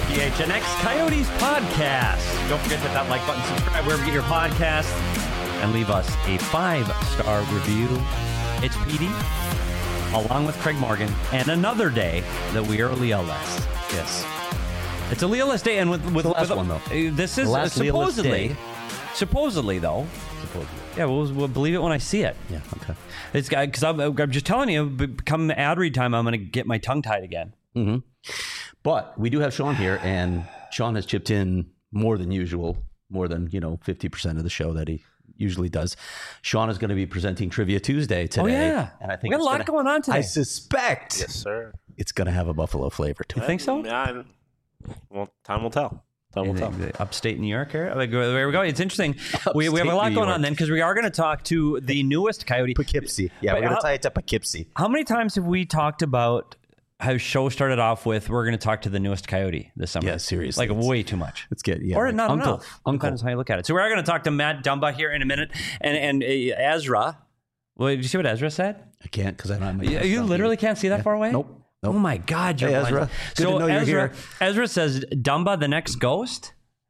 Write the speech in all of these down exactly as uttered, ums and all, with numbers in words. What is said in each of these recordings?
P H N X Coyotes podcast. Don't forget to hit that like button, subscribe wherever you get your podcasts, and leave us a five-star review. It's P D, along with Craig Morgan, and another day that we are Leoless. Yes. It's a Leoless day, and with, with the last with, one, though. This is last supposedly, supposedly, though. Supposedly. Yeah, we'll, we'll believe it when I see it. Yeah, okay. It's because I'm, I'm just telling you, come ad read time, I'm going to get my tongue tied again. Mm-hmm. But we do have Sean here, and Sean has chipped in more than usual, more than, you know, fifty percent of the show that he usually does. Sean is going to be presenting Trivia Tuesday today. Oh, yeah. And I think we got a lot gonna, going on today. I suspect Yes, sir. it's going to have a Buffalo flavor to You it. think so? Yeah, I'm- well, time will tell. Time will tell. Upstate New York here. Like, there we go. It's interesting. We, we have a lot New going York. on then because we are going to talk to the newest Coyote. Poughkeepsie. Yeah, But we're going how- to tie it to Poughkeepsie. How many times have we talked about how show started off with we're going to talk to the newest Coyote this summer? Yeah, seriously. Like It's- way too much. Let's get, yeah. Or like not uncle, enough. Uncle. Depends how you look at it. So we are going to talk to Matt Dumba here in a minute. And and uh, Ezra. Well, did you see what Ezra said? I can't because I don't have my You, you stuff literally here. can't see that Yeah. far away? Nope. Oh Nope. my God, you're Hey, blind. Ezra. Good so to know you're Ezra, here. Ezra says Dumba, the next ghost,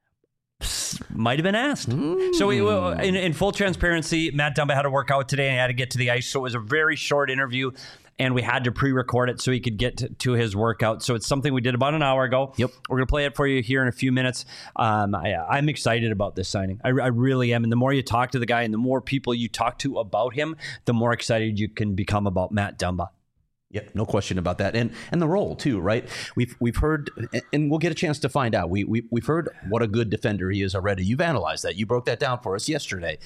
psst, might have been asked. Mm. So we, well, in, in full transparency, Matt Dumba had to work out today and had to get to the ice. So it was a very short interview, and we had to pre-record it so he could get to, to his workout. So it's something we did about an hour ago. Yep. We're going to play it for you here in a few minutes. Um, I, I'm excited about this signing. I, I really am. And the more you talk to the guy and the more people you talk to about him, the more excited you can become about Matt Dumba. Yep, no question about that, and and the role too, right? We've we've heard, and we'll get a chance to find out. We we we've heard what a good defender he is already. You've analyzed that. You broke that down for us yesterday.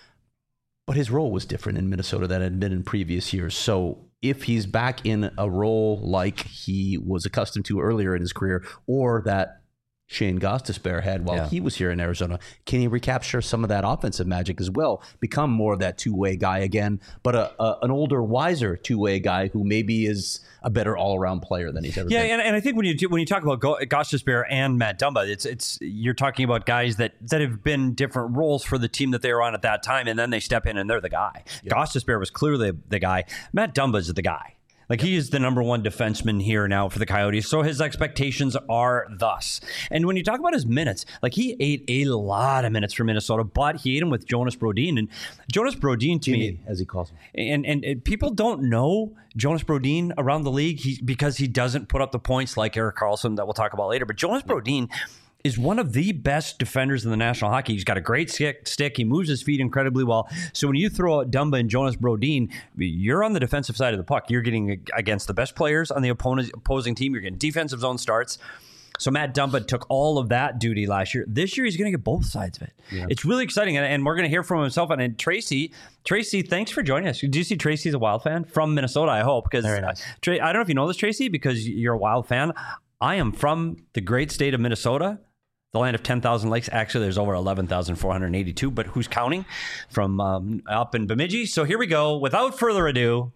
But his role was different in Minnesota than it had been in previous years. So if he's back in a role like he was accustomed to earlier in his career, or that Shane Gostisbehere had while Yeah. he was here in Arizona, can he recapture some of that offensive magic as well? Become more of that two-way guy again, but a, a an older, wiser two-way guy who maybe is a better all-around player than he's ever Yeah, been. and, and I think when you do, when you talk about Go- Gostisbehere and Matt Dumba, it's it's you're talking about guys that that have been different roles for the team that they were on at that time, and then they step in and they're the guy. Yeah. Gostisbehere was clearly the guy. Matt Dumba is the guy. Like, he is the number one defenseman here now for the Coyotes, so his expectations are thus. And when you talk about his minutes, like, he ate a lot of minutes for Minnesota, but he ate them with Jonas Brodin. And Jonas Brodin, to Jimmy, me, as he calls him. and, and and people don't know Jonas Brodin around the league he, because he doesn't put up the points like Erik Karlsson that we'll talk about later. But Jonas Brodin is one of the best defenders in the National Hockey. He's got a great stick. stick. He moves his feet incredibly well. So when you throw out Dumba and Jonas Brodin, you're on the defensive side of the puck. You're getting against the best players on the opponent, opposing team. You're getting defensive zone starts. So Matt Dumba took all of that duty last year. This year, he's going to get both sides of it. Yeah. It's really exciting, and, and we're going to hear from himself. And, and Tracy, Tracy, thanks for joining us. Do you see Tracy's a Wild fan from Minnesota? I hope, because Very nice. Tra- I don't know if you know this, Tracy, because you're a Wild fan. I am from the great state of Minnesota, the land of ten thousand lakes. Actually, there's over eleven thousand four hundred eighty-two, but who's counting? From um, up in Bemidji. So here we go. Without further ado,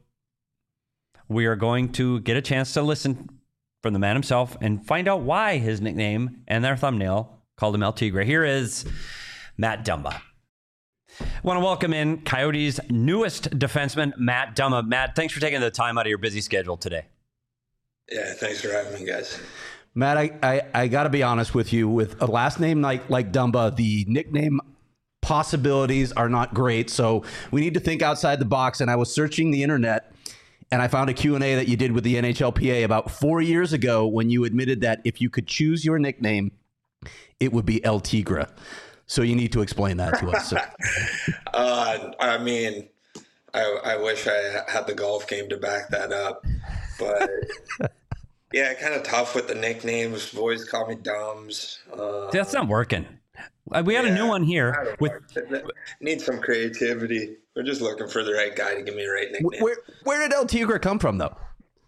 we are going to get a chance to listen from the man himself and find out why his nickname and their thumbnail called him El Tigre. Here is Matt Dumba. I want to welcome in Coyotes' newest defenseman, Matt Dumba. Matt, thanks for taking the time out of your busy schedule today. Yeah, thanks for having me, guys. Matt, I, I, I got to be honest with you. With a last name like like Dumba, the nickname possibilities are not great. So we need to think outside the box. And I was searching the internet, and I found a Q and A that you did with the N H L P A about four years ago when you admitted that if you could choose your nickname, it would be El Tigre. So you need to explain that to us. uh, I mean, I, I wish I had the golf game to back that up. But... yeah, kind of tough with the nicknames. Boys call me Dumbs. Uh, That's not working. We have yeah, a new one here. With need some creativity. We're just looking for the right guy to give me the right nickname. Where where did El Tigre come from, though?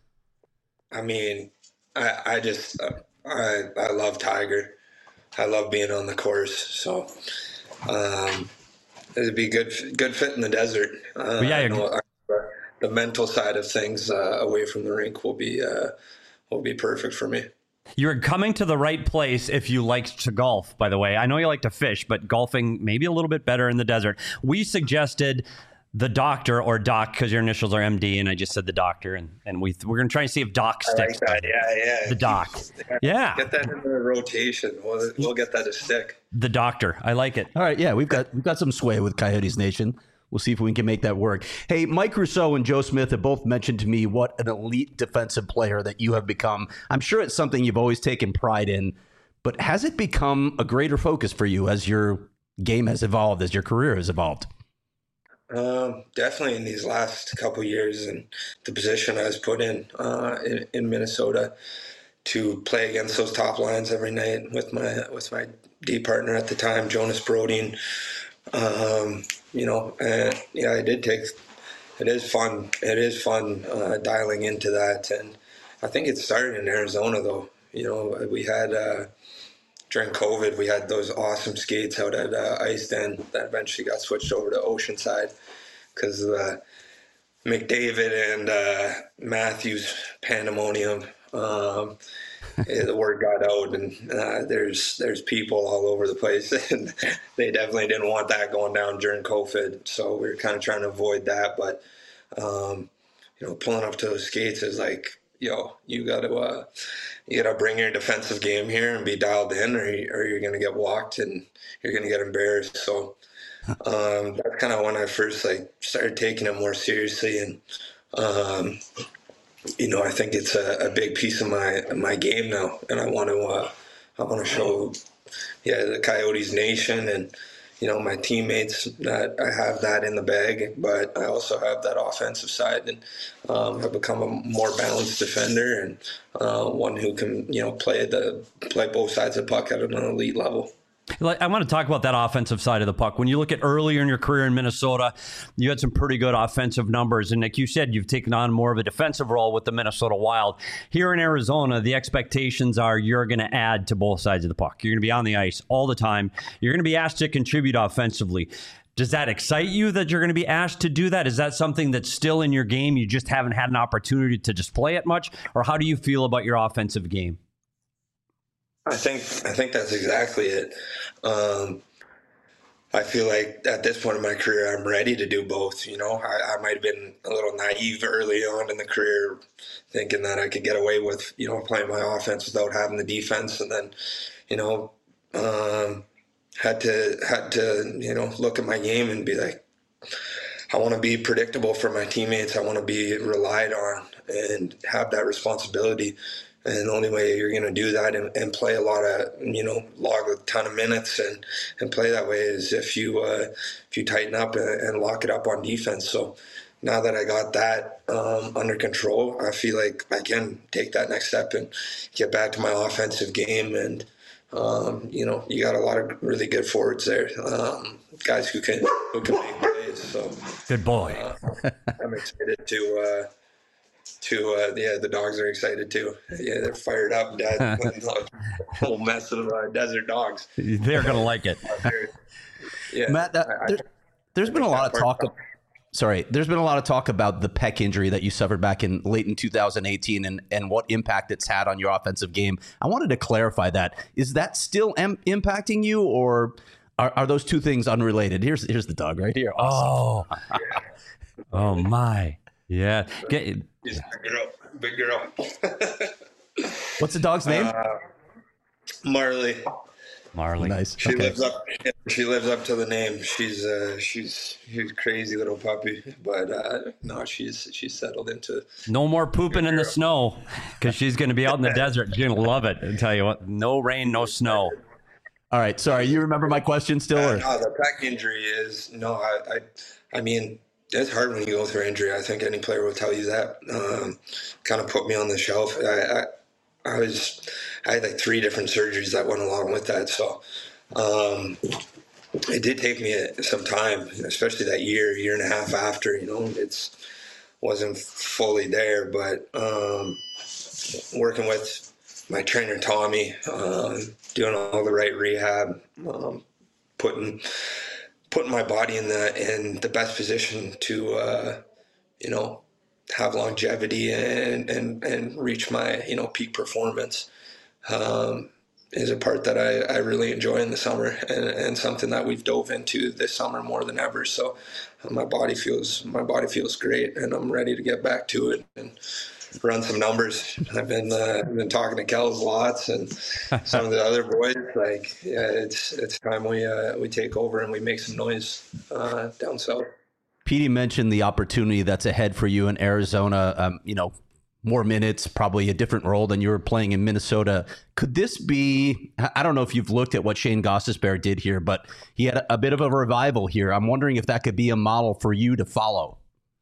I mean, I, I just uh, I I love Tiger. I love being on the course. So um, it'd be good good fit in the desert. Uh, well, yeah, I know, uh, the mental side of things uh, away from the rink will be. Uh, will be perfect for me. You're coming to the right place if you like to golf, by the way. I know you like to fish, but golfing maybe a little bit better in the desert. We suggested the doctor or Doc, because your initials are M D, and I just said the doctor, and, and we we're gonna try and see if Doc sticks. I like that. Yeah, yeah. The Doc. Yeah. Get that in the rotation. We'll, we'll get that to stick. The doctor. I like it. All right, yeah, we've got we've got some sway with Coyotes Nation. We'll see if we can make that work. Hey, Mike Rousseau and Joe Smith have both mentioned to me what an elite defensive player that you have become. I'm sure it's something you've always taken pride in, but has it become a greater focus for you as your game has evolved, as your career has evolved? Um, definitely in these last couple of years, and the position I was put in, uh, in in Minnesota to play against those top lines every night with my with my D partner at the time, Jonas Brodin. Um, you know, and yeah, I did take. It is fun. It is fun uh, dialing into that, and I think it started in Arizona though. You know, we had. Uh, During COVID, we had those awesome skates out at uh, Ice Den that eventually got switched over to Oceanside because uh, McDavid and uh, Matthews pandemonium. Um, the word got out, and uh, there's there's people all over the place, and they definitely didn't want that going down during COVID. So we were kind of trying to avoid that. But um, you know, pulling up to those skates is like, yo, you got to. Uh, You got to bring your defensive game here and be dialed in, or, you, or you're going to get walked and you're going to get embarrassed. So um, that's kind of when I first like started taking it more seriously. And, um, you know, I think it's a, a big piece of my my game now. And I want to uh, I want to show, yeah, the Coyotes Nation and, you know, my teammates that I have that in the bag, but I also have that offensive side, and um, have become a more balanced defender and uh, one who can, you know, play the play both sides of the puck at an elite level. I want to talk about that offensive side of the puck. When you look at earlier in your career in Minnesota, you had some pretty good offensive numbers. And like you said, you've taken on more of a defensive role with the Minnesota Wild. Here in Arizona, the expectations are you're going to add to both sides of the puck. You're going to be on the ice all the time. You're going to be asked to contribute offensively. Does that excite you that you're going to be asked to do that? Is that something that's still in your game? You just haven't had an opportunity to display it much? Or how do you feel about your offensive game? I think I think that's exactly it. Um, I feel like at this point in my career, I'm ready to do both. You know, I, I might have been a little naive early on in the career, thinking that I could get away with, you know, playing my offense without having the defense, and then, you know, um, had to had to you know look at my game and be like, I want to be predictable for my teammates. I want to be relied on and have that responsibility. And the only way you're going to do that and, and play a lot of, you know, log a ton of minutes and, and play that way is if you uh, if you tighten up and, and lock it up on defense. So now that I got that um, under control, I feel like I can take that next step and get back to my offensive game. And, um, you know, you got a lot of really good forwards there, um, guys who can who can make plays. So good boy. Uh, I'm excited to. Uh, To uh, yeah, the dogs are excited too. Yeah, they're fired up. Dad, whole mess of uh, desert dogs. They're gonna like it. Yeah, Matt. Uh, I, there, there's been a lot of talk. Of, sorry, there's been a lot of talk about the pec injury that you suffered back in late in two thousand eighteen and and what impact it's had on your offensive game. I wanted to clarify that. Is that still am- impacting you, or are, are those two things unrelated? Here's here's the dog right here. Awesome. Oh, oh my. Yeah. Get, She's a big girl. Big girl. What's the dog's name? Uh, Marley. Marley. Nice. She okay. lives up. She lives up to the name. She's uh, she's she's a crazy little puppy, but uh, no, she's she's settled into. No more pooping in the snow, because she's going to be out in the desert. She's going to love it. I tell you what, no rain, no snow. All right. Sorry, you remember my question still? Uh, or? no, the pec injury is no. I, I I mean. It's hard when you go through injury. I think any player will tell you that. Um, kind of put me on the shelf. I, I, I was, I had like three different surgeries that went along with that. So um, it did take me some time, especially that year, year and a half after. You know, it's wasn't fully there, but um, working with my trainer Tommy, um, doing all the right rehab, um, putting. putting my body in the in the best position to uh, you know have longevity and, and and reach my you know peak performance. Um, is a part that I, I really enjoy in the summer, and, and something that we've dove into this summer more than ever. So my body feels my body feels great, and I'm ready to get back to it and run some numbers. I've been uh, I've been talking to Kells lots and some of the other boys. Like, yeah, it's it's time we uh, we take over and we make some noise uh, down south. Petey mentioned the opportunity that's ahead for you in Arizona. Um, you know, more minutes, probably a different role than you were playing in Minnesota. Could this be, I don't know if you've looked at what Shane Gostisbehere did here, but he had a bit of a revival here. I'm wondering if that could be a model for you to follow.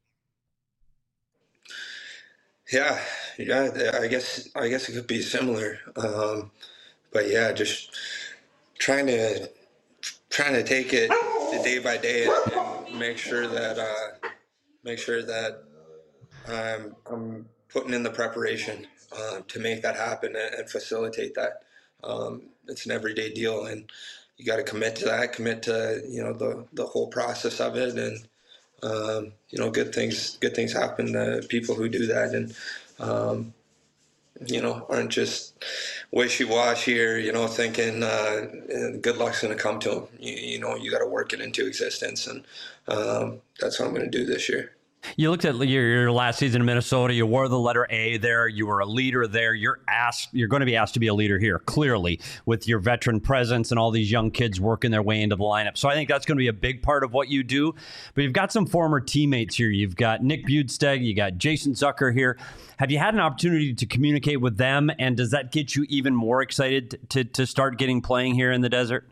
Yeah, yeah, I guess, I guess it could be similar. Um, but yeah, just trying to, trying to take it day by day and, and make sure that, uh, make sure that I'm, I'm putting in the preparation uh, to make that happen and, and facilitate that. Um, it's an everyday deal, and you got to commit to that, commit to, you know, the, the whole process of it. And, um, you know, good things, good things happen to people who do that. And, um, you know, aren't just wishy-washy or, you know, thinking uh, good luck's going to come to them. You, you know, you got to work it into existence. And um, that's what I'm going to do this year. You looked at your, your last season in Minnesota. You wore the letter A there. You were a leader there. You're asked. You're going to be asked to be a leader here, clearly, with your veteran presence and all these young kids working their way into the lineup. So I think that's going to be a big part of what you do. But you've got some former teammates here. You've got Nick Bjugstad. You got Jason Zucker here. Have you had an opportunity to communicate with them? And does that get you even more excited to to start getting playing here in the desert?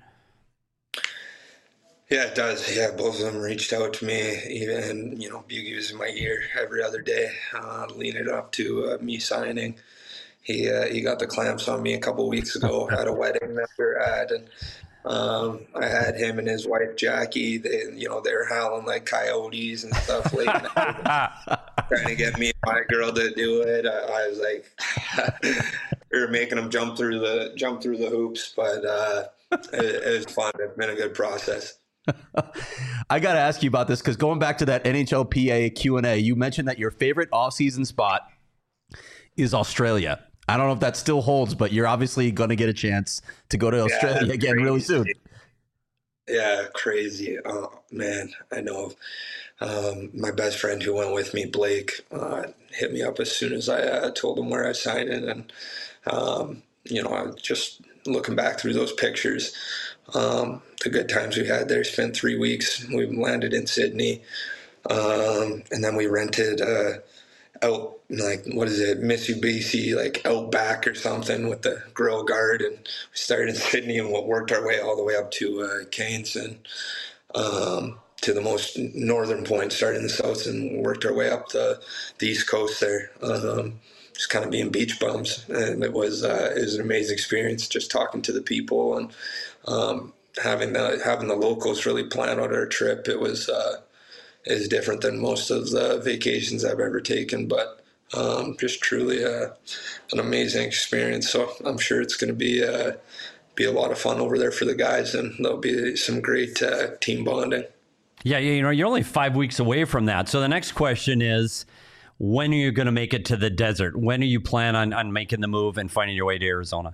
Yeah, it does. Yeah, both of them reached out to me, even, you know, Buggy was in my ear every other day, uh, leading up to uh, me signing. He uh, he got the clamps on me a couple of weeks ago at a wedding that we were at, and um, I had him and his wife Jackie. They, you know, they were howling like coyotes and stuff, late night, trying to get me and my girl to do it. I, I was like, we were making them jump through the jump through the hoops, but uh, it, it was fun. It's been a good process. I got to ask you about this because going back to that N H L P A Q and A, you mentioned that your favorite off-season spot is Australia. I don't know if that still holds, but you're obviously going to get a chance to go to Australia yeah, again crazy. really soon. Yeah, crazy. Oh, man, I know. Um, my best friend who went with me, Blake, uh, hit me up as soon as I uh, told him where I signed in. And, um, you know, I'm just looking back through those pictures. Um, the good times we had there, spent three weeks. We landed in Sydney. Um, and then we rented uh, out, like, what is it, Mitsubishi, like Outback or something with the grill guard. And we started in Sydney and worked our way all the way up to uh, Cairns and um, to the most northern point, started in the south and worked our way up the, the east coast there. Um, just kind of being beach bums. And it was, uh, it was an amazing experience just talking to the people and um, having the having the locals really plan out our trip. It was uh, is different than most of the vacations I've ever taken, but um, just truly uh, an amazing experience. So I'm sure it's going to be uh, be a lot of fun over there for the guys, and there'll be some great uh, team bonding. Yeah, you know, you're only five weeks away from that. So the next question is, when are you going to make it to the desert? When do you plan on, on making the move and finding your way to Arizona?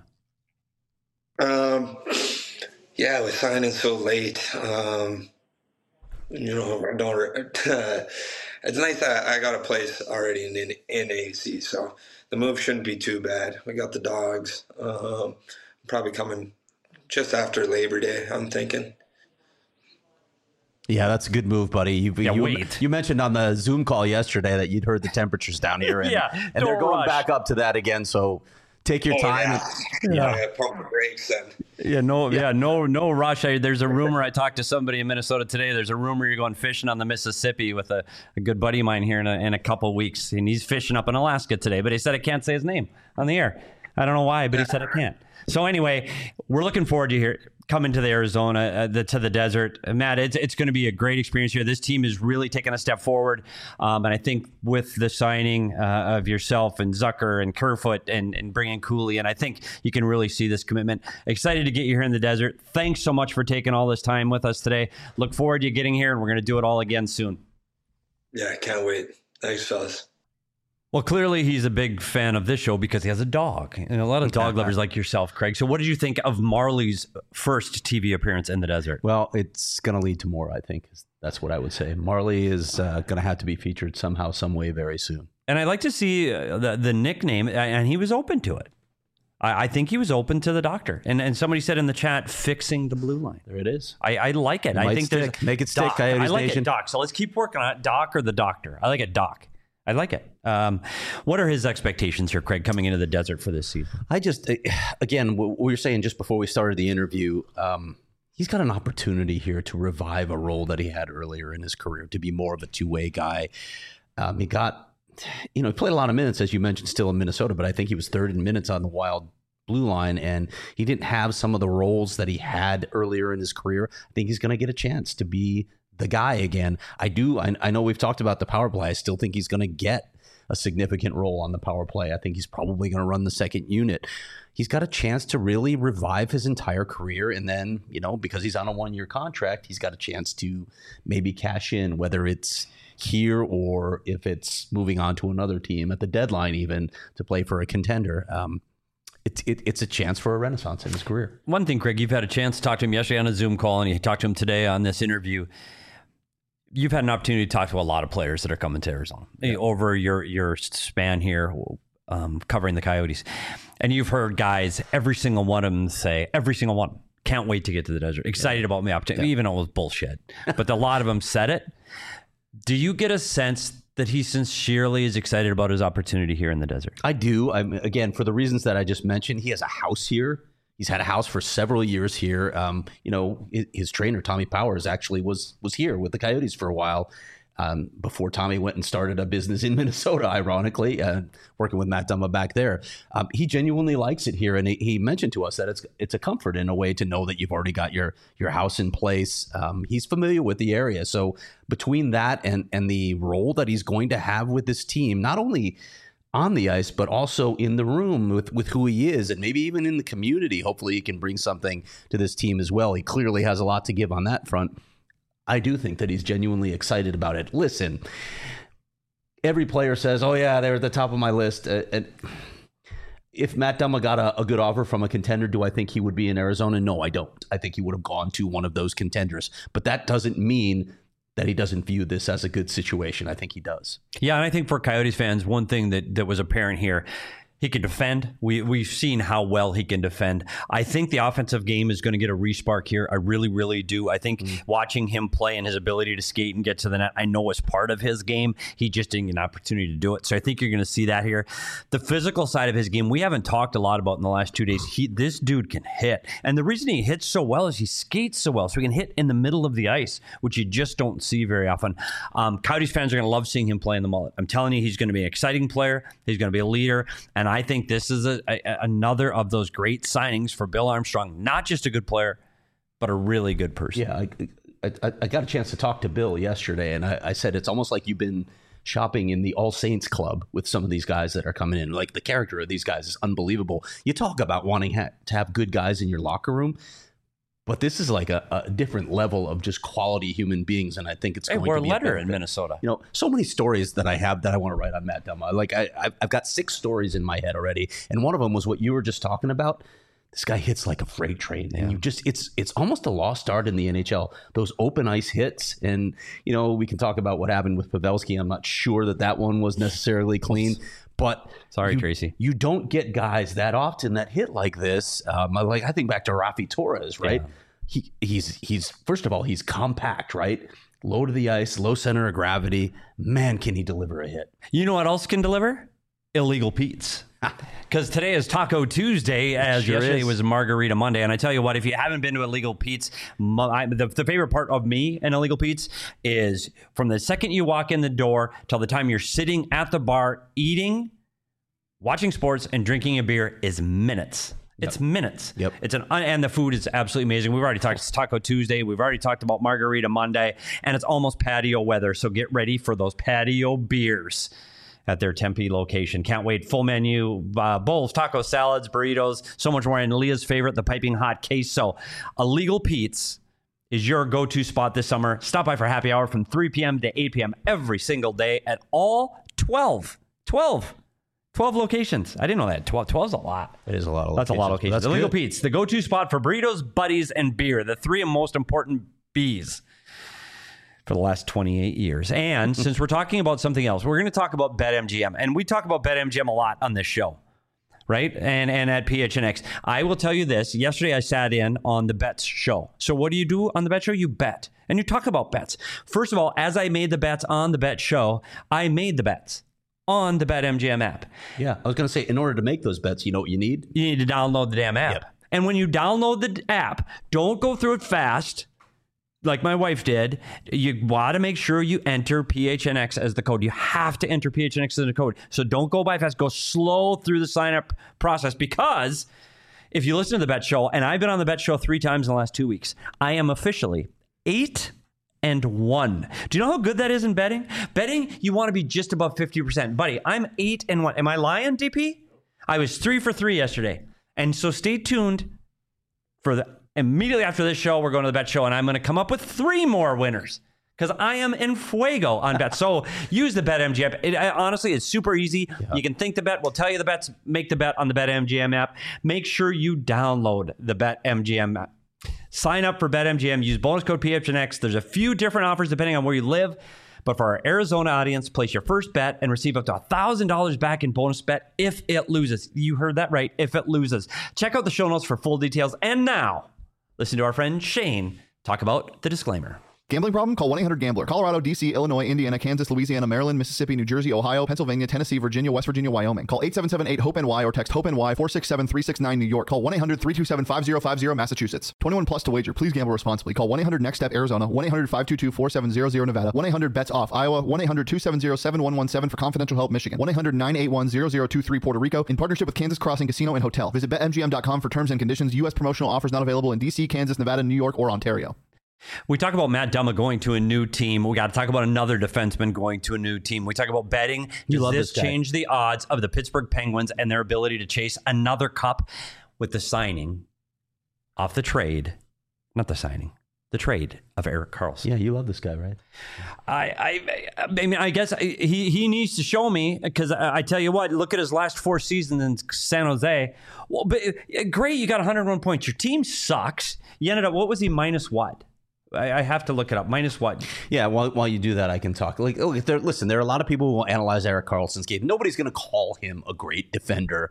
Um. Yeah, with signing so late, um, you know, I don't. Uh, it's nice that I got a place already in in A C, so the move shouldn't be too bad. We got the dogs. Um, probably coming just after Labor Day, I'm thinking. Yeah, that's a good move, buddy. You, yeah, you, wait. you mentioned on the Zoom call yesterday that you'd heard the temperatures down here, and, yeah, and they're going rush. back up to that again. So take your oh, time. Yeah, and, yeah. yeah pump the brakes then. Yeah, no, yeah. Yeah. no, no rush. I, there's a rumor. I talked to somebody in Minnesota today. There's a rumor you're going fishing on the Mississippi with a, a good buddy of mine here in a, in a couple of weeks, and he's fishing up in Alaska today. But he said I can't say his name on the air. I don't know why, but he said I can't. So anyway, we're looking forward to here coming to the Arizona, uh, the, to the desert. Uh, Matt, it's it's going to be a great experience here. This team is really taking a step forward, um, and I think with the signing uh, of yourself and Zucker and Kerfoot and, and bringing Cooley, and I think you can really see this commitment. Excited to get you here in the desert. Thanks so much for taking all this time with us today. Look forward to you getting here, and we're going to do it all again soon. Yeah, I can't wait. Thanks, fellas. Well, clearly he's a big fan of this show because he has a dog. And a lot of dog lovers like yourself, Craig. So what did you think of Marley's first T V appearance in the desert? Well, it's going to lead to more, I think. That's what I would say. Marley is uh, going to have to be featured somehow, some way very soon. And I'd like to see uh, the, the nickname, and he was open to it. I, I think he was open to the doctor. And and somebody said in the chat, fixing the blue line. There it is. I, I like it. it I think stick. there's Make it stick, Doc, Coyotes I like Nation. it, Doc. So let's keep working on it. Doc or the doctor? I like it, Doc. I like it. Um, what are his expectations here, Craig, coming into the desert for this season? I just, again, what we were saying just before we started the interview, um, he's got an opportunity here to revive a role that he had earlier in his career, to be more of a two-way guy. Um, he got, you know, he played a lot of minutes, as you mentioned, still in Minnesota, but I think he was third in minutes on the Wild blue line, and he didn't have some of the roles that he had earlier in his career. I think he's going to get a chance to be the guy again. I do. I, I know we've talked about the power play. I still think he's going to get a significant role on the power play. I think he's probably going to run the second unit. He's got a chance to really revive his entire career. And then, you know, because he's on a one-year contract, he's got a chance to maybe cash in, whether it's here or if it's moving on to another team at the deadline, even to play for a contender. Um, It's it, it's a chance for a renaissance in his career. One thing, Craig, you've had a chance to talk to him yesterday on a Zoom call, and you talked to him today on this interview. You've had an opportunity to talk to a lot of players that are coming to Arizona yeah. over your your span here, um, covering the Coyotes. And you've heard guys, every single one of them say, every single one, can't wait to get to the desert. Excited yeah. about my opportunity, yeah. even though it was bullshit. But a lot of them said it. Do you get a sense that he sincerely is excited about his opportunity here in the desert? I do. I'm, again, for the reasons that I just mentioned, he has a house here. He's had a house for several years here. Um, you know, his, his trainer, Tommy Powers, actually was was here with the Coyotes for a while um, before Tommy went and started a business in Minnesota, ironically, uh, working with Matt Dumba back there. Um, he genuinely likes it here. And he, he mentioned to us that it's it's a comfort in a way to know that you've already got your your house in place. Um, he's familiar with the area. So between that and, and the role that he's going to have with this team, not only on the ice, but also in the room with, with who he is, and maybe even in the community. Hopefully he can bring something to this team as well. He clearly has a lot to give on that front. I do think that he's genuinely excited about it. Listen, every player says, oh yeah, they're at the top of my list. Uh, and if Matt Dumba got a, a good offer from a contender, do I think he would be in Arizona? No, I don't. I think he would have gone to one of those contenders. But that doesn't mean that he doesn't view this as a good situation. I think he does. Yeah, and I think for Coyotes fans, one thing that, that was apparent here, he can defend. We, we've seen how well he can defend. I think the offensive game is going to get a respark here. I really, really do. I think mm. watching him play and his ability to skate and get to the net, I know was part of his game. He just didn't get an opportunity to do it. So I think you're going to see that here. The physical side of his game, we haven't talked a lot about in the last two days. He, this dude can hit. And the reason he hits so well is he skates so well. So he can hit in the middle of the ice, which you just don't see very often. Um, Coyotes fans are going to love seeing him play in the mullet. I'm telling you, he's going to be an exciting player. He's going to be a leader. And I think this is a, a, another of those great signings for Bill Armstrong. Not just a good player, but a really good person. Yeah, I, I, I got a chance to talk to Bill yesterday, and I, I said it's almost like you've been shopping in the All Saints Club with some of these guys that are coming in. Like, the character of these guys is unbelievable. You talk about wanting ha- to have good guys in your locker room, but this is like a, a different level of just quality human beings, and I think it's hey, going we're to be a letter a in Minnesota. You know, so many stories that I have that I want to write on Matt Dumba. Like, I, I've got six stories in my head already, and one of them was what you were just talking about. This guy hits like a freight train, and yeah. you just it's it's almost a lost art in the N H L. Those open ice hits, and you know, we can talk about what happened with Pavelski. I'm not sure that that one was necessarily clean. But sorry, you, Tracy, you don't get guys that often that hit like this. Um, like I think back to Rafi Torres, right? Yeah. He he's he's first of all, he's compact, right? Low to the ice, low center of gravity. Man, can he deliver a hit? You know what else can deliver? Illegal Pete's. Because today is Taco Tuesday, as sure yesterday is. was Margarita Monday. And I tell you what, if you haven't been to Illegal Pete's, my, the, the favorite part of me and Illegal Pete's is from the second you walk in the door till the time you're sitting at the bar eating, watching sports, and drinking a beer is minutes. It's yep. minutes. Yep. It's an and the food is absolutely amazing. We've already talked Taco Tuesday. We've already talked about Margarita Monday, and it's almost patio weather. So get ready for those patio beers at their Tempe location. Can't wait. Full menu, uh, bowls, tacos, salads, burritos, so much more. And Leah's favorite, the piping hot queso. Illegal Pete's is your go-to spot this summer. Stop by for happy hour from three p.m. to eight p.m. every single day at all twelve twelve. twelve locations. I didn't know that. twelve, twelve is a lot. It is a lot of That's locations. a lot of locations. That's Illegal good. Pete's, the go-to spot for burritos, buddies, and beer. The three most important B's for the last twenty-eight years. And since we're talking about something else, we're going to talk about BetMGM. And we talk about BetMGM a lot on this show, right? And and at P H N X. I will tell you this. Yesterday, I sat in on the bets show. So what do you do on the bet show? You bet. And you talk about bets. First of all, as I made the bets on the bet show, I made the bets on the BetMGM app. Yeah, I was going to say, in order to make those bets, you know what you need? You need to download the damn app. Yep. And when you download the app, don't go through it fast like my wife did. You want to make sure you enter P H N X as the code. You have to enter P H N X as the code. So don't go by fast. Go slow through the sign-up process, because if you listen to the Bet Show, and I've been on the Bet Show three times in the last two weeks, I am officially eight and one. Do you know how good that is in betting? Betting, you want to be just above fifty percent. Buddy, I'm eight and one. Am I lying, D P? I was three for three yesterday. And so stay tuned for the immediately after this show, we're going to the Bet Show, and I'm going to come up with three more winners, because I am in fuego on bets. So use the BetMGM app. It, I, honestly, it's super easy. Yeah. You can think the bet. We'll tell you the bets. Make the bet on the BetMGM app. Make sure you download the BetMGM app. Sign up for BetMGM. Use bonus code P H N X. There's a few different offers depending on where you live. But for our Arizona audience, place your first bet and receive up to one thousand dollars back in bonus bet if it loses. You heard that right, if it loses. Check out the show notes for full details. And now, listen to our friend Shane talk about the disclaimer. Gambling problem? Call one eight hundred gambler. Colorado, D C, Illinois, Indiana, Kansas, Louisiana, Maryland, Mississippi, New Jersey, Ohio, Pennsylvania, Tennessee, Virginia, West Virginia, Wyoming. Call eight seven seven eight hope N Y or text HOPE-NY four six seven three six nine New York. Call one eight hundred three two seven five zero five zero Massachusetts. twenty-one plus to wager. Please gamble responsibly. Call one eight hundred next step Arizona. one eight hundred five two two four seven zero zero Nevada. one eight hundred bets off Iowa. one eight hundred two seven zero seven one one seven for confidential help Michigan. one eight hundred nine eight one zero zero two three Puerto Rico. In partnership with Kansas Crossing Casino and Hotel. Visit bet M G M dot com for terms and conditions. U S promotional offers not available in D C, Kansas, Nevada, New York, or Ontario. We talk about Matt Dumba going to a new team. We got to talk about another defenseman going to a new team. We talk about betting. You Does love this this guy. change the odds of the Pittsburgh Penguins and their ability to chase another cup with the signing off the trade? Not the signing, the trade of Erik Karlsson. Yeah, you love this guy, right? I, I, I mean, I guess he, he needs to show me, because I, I tell you what, look at his last four seasons in San Jose. Well, but great, you got one hundred one points. Your team sucks. You ended up, what was he, minus what? I, I have to look it up. Minus what? Yeah, while, while you do that, I can talk. Like, look, there, listen, there are a lot of people who will analyze Erik Karlsson's game. Nobody's going to call him a great defender.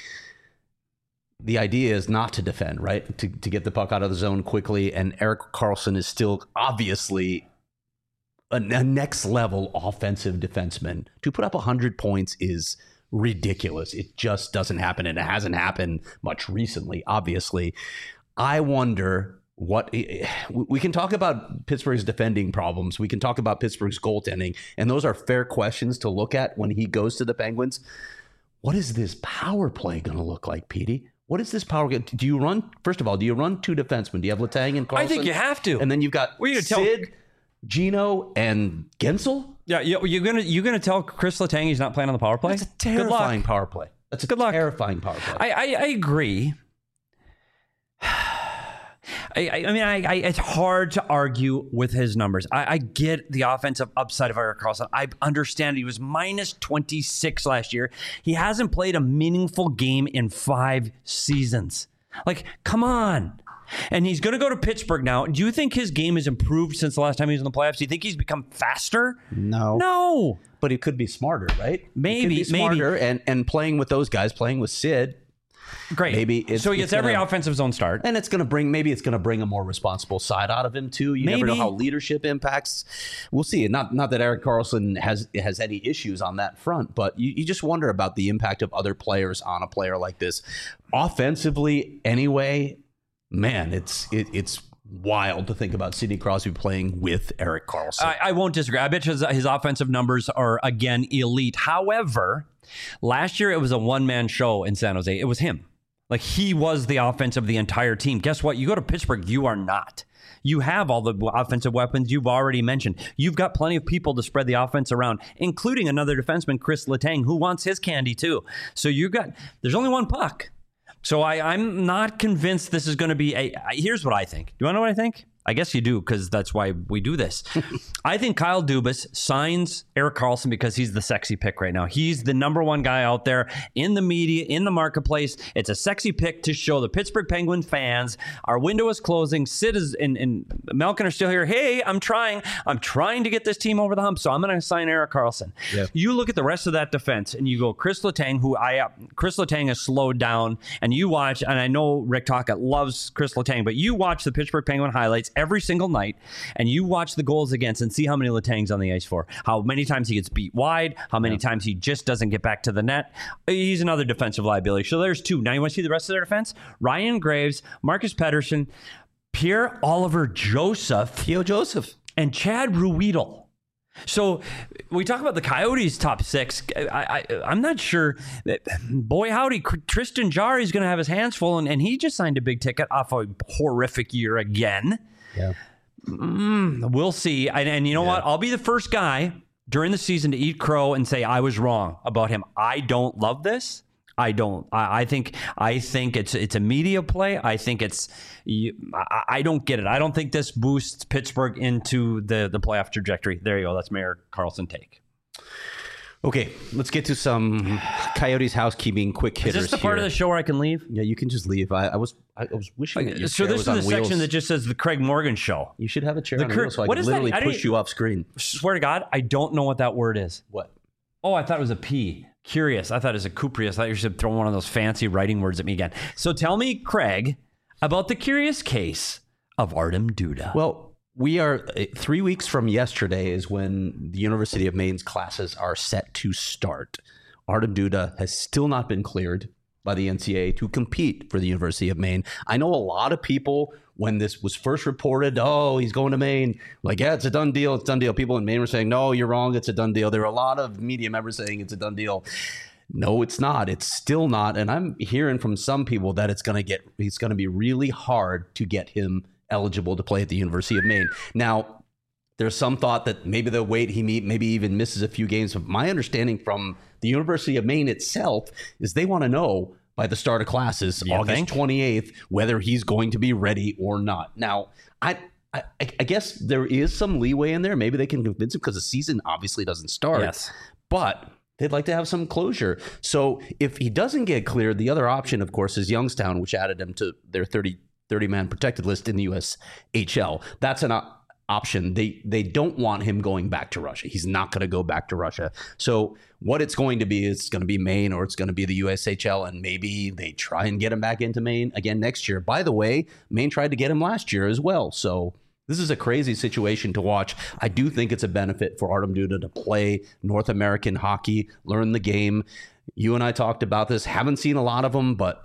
The idea is not to defend, right? To, to get the puck out of the zone quickly. And Erik Karlsson is still obviously a, a next level offensive defenseman. To put up one hundred points is ridiculous. It just doesn't happen. And it hasn't happened much recently, obviously. I wonder what we can talk about Pittsburgh's defending problems. We can talk about Pittsburgh's goaltending. And those are fair questions to look at when he goes to the Penguins. What is this power play going to look like, Petey? What is this power? Do you run, first of all, do you run two defensemen? Do you have Letang and Karlsson? I think you have to. And then you've got What are you gonna tell- Sid, Gino, and Gensel? Yeah, you- you're gonna you're gonna tell Chris Letang he's not playing on the power play? That's a Good luck. terrifying power play. That's a Good luck. terrifying power play. I, I, I agree. I, I I mean, I, I, it's hard to argue with his numbers. I, I get the offensive upside of Erik Karlsson. I understand he was minus twenty-six last year. He hasn't played a meaningful game in five seasons. Like, come on. And he's going to go to Pittsburgh now. Do you think his game has improved since the last time he was in the playoffs? Do you think he's become faster? No. No. But he could be smarter, right? Maybe, he could be maybe. smarter, and and playing with those guys, playing with Sid. Great. Maybe it's- so he it's gets every gonna- offensive zone start. And it's going to bring, maybe it's going to bring a more responsible side out of him too. You never know Maybe. how leadership impacts. We'll see. Not not that Erik Karlsson has has any issues on that front, but you, you just wonder about the impact of other players on a player like this. Offensively, anyway, man, it's it, it's wild to think about Sidney Crosby playing with Erik Karlsson. I, I won't disagree. I bet you his, his offensive numbers are, again, elite. However, last year it was a one-man show in San Jose. It was him. Like, he was the offense of the entire team. Guess what? You go to Pittsburgh, you are not. You have all the offensive weapons you've already mentioned. You've got plenty of people to spread the offense around, including another defenseman, Chris Letang, who wants his candy too. So you've got, there's only one puck. So I, I'm not convinced this is going to be a, I- here's what I think. Do you want to know what I think? I guess you do, because that's why we do this. I think Kyle Dubas signs Erik Karlsson because he's the sexy pick right now. He's the number one guy out there in the media, in the marketplace. It's a sexy pick to show the Pittsburgh Penguins fans our window is closing. Sid is, and, and Malkin are still here. Hey, I'm trying. I'm trying to get this team over the hump, so I'm going to sign Erik Karlsson. Yeah. You look at the rest of that defense, and you go Chris Letang, who I uh, Chris Letang has slowed down, and you watch, and I know Rick Tocchet loves Chris Letang, but you watch the Pittsburgh Penguin highlights every single night, and you watch the goals against and see how many Letang's on the ice for, how many times he gets beat wide, how many yeah. times he just doesn't get back to the net. He's another defensive liability. So there's two. Now you want to see the rest of their defense? Ryan Graves, Marcus Pettersson, Pierre-Olivier Joseph, Theo Joseph, and Chad Ruhwedel. So we talk about the Coyotes' top six. I, I, I'm not sure. That, boy, howdy, Tristan Jarry is going to have his hands full, and, and he just signed a big ticket off a horrific year again. Yeah, mm, we'll see. And, and you know yeah. what? I'll be the first guy during the season to eat crow and say I was wrong about him. I don't love this. I don't. I, I think. I think it's it's a media play. I think it's. You, I, I don't get it. I don't think this boosts Pittsburgh into the the playoff trajectory. There you go. That's my Erik Karlsson take. Okay, let's get to some Coyotes housekeeping quick hitters. Is this the part here. of the show where I can leave? Yeah, you can just leave. I, I was I was wishing that your so chair this was is on the wheels. section that just says the Craig Morgan Show. You should have a chair the on Cur- wheels so I what can is literally that? push you off screen. Swear to God, I don't know what that word is. What? Oh, I thought it was a P. Curious. I thought it was a cuprious. I thought you should throw one of those fancy writing words at me again. So tell me, Craig, about the curious case of Artem Duda. Well, we are three weeks from yesterday is when the University of Maine's classes are set to start. Artem Duda has still not been cleared by the N C double A to compete for the University of Maine. I know a lot of people, when this was first reported, oh, he's going to Maine, like, yeah, it's a done deal, it's a done deal. People in Maine were saying, no, you're wrong, it's a done deal. There were a lot of media members saying it's a done deal. No, it's not. It's still not. And I'm hearing from some people that it's going to get, it's going to be really hard to get him eligible to play at the University of Maine. Now, there's some thought that maybe they'll wait, he meet, maybe even misses a few games. But my understanding from the University of Maine itself is they want to know by the start of classes, you August think? twenty-eighth, whether he's going to be ready or not. Now, I, I, I guess there is some leeway in there. Maybe they can convince him because the season obviously doesn't start. Yes. But they'd like to have some closure. So if he doesn't get cleared, the other option, of course, is Youngstown, which added him to their thirty, thirty-man protected list in the U S H L. That's an option. option. They they don't want him going back to Russia. He's not going to go back to Russia. So what it's going to be is it's going to be Maine or it's going to be the U S H L, and maybe they try and get him back into Maine again next year. By the way, Maine tried to get him last year as well. So this is a crazy situation to watch. I do think it's a benefit for Artem Duda to play North American hockey, learn the game. You and I talked about this. Haven't seen a lot of them, but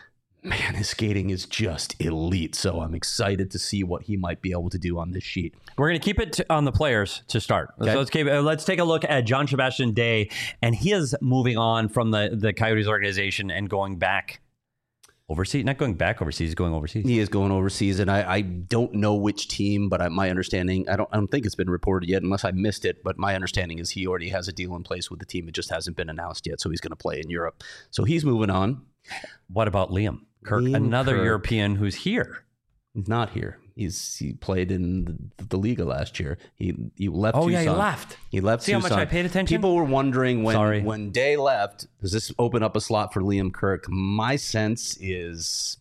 man, his skating is just elite. So I'm excited to see what he might be able to do on this sheet. We're going to keep it to, on the players to start. Okay. So let's, keep, uh, let's take a look at John Sebastian Day, and he is moving on from the, the Coyotes organization and going back overseas. Not going back overseas, he's going overseas. He is going overseas, and I, I don't know which team, but I, my understanding, I don't, I don't think it's been reported yet, unless I missed it. But my understanding is he already has a deal in place with the team. It just hasn't been announced yet, so he's going to play in Europe. So he's moving on. What about Liam Kirk, Liam another Kirk. European who's here? He's not here. He's he played in the, the Liga last year. He he left. Oh, Tucson. yeah, he left. He left. See how Tucson. much I paid attention? People were wondering when Sorry. when Day left, does this open up a slot for Liam Kirk? My sense is,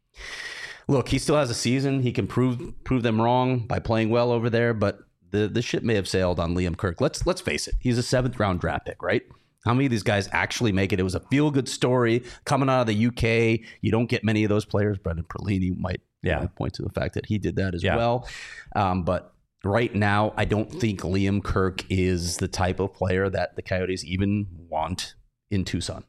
look, he still has a season. He can prove prove them wrong by playing well over there, but the the ship may have sailed on Liam Kirk. Let's let's face it. He's a seventh round draft pick, right? How many of these guys actually make it? It was a feel-good story coming out of the U K. You don't get many of those players. Brendan Perlini might Yeah. you know, point to the fact that he did that as Yeah. well. Um, but right now, I don't think Liam Kirk is the type of player that the Coyotes even want in Tucson.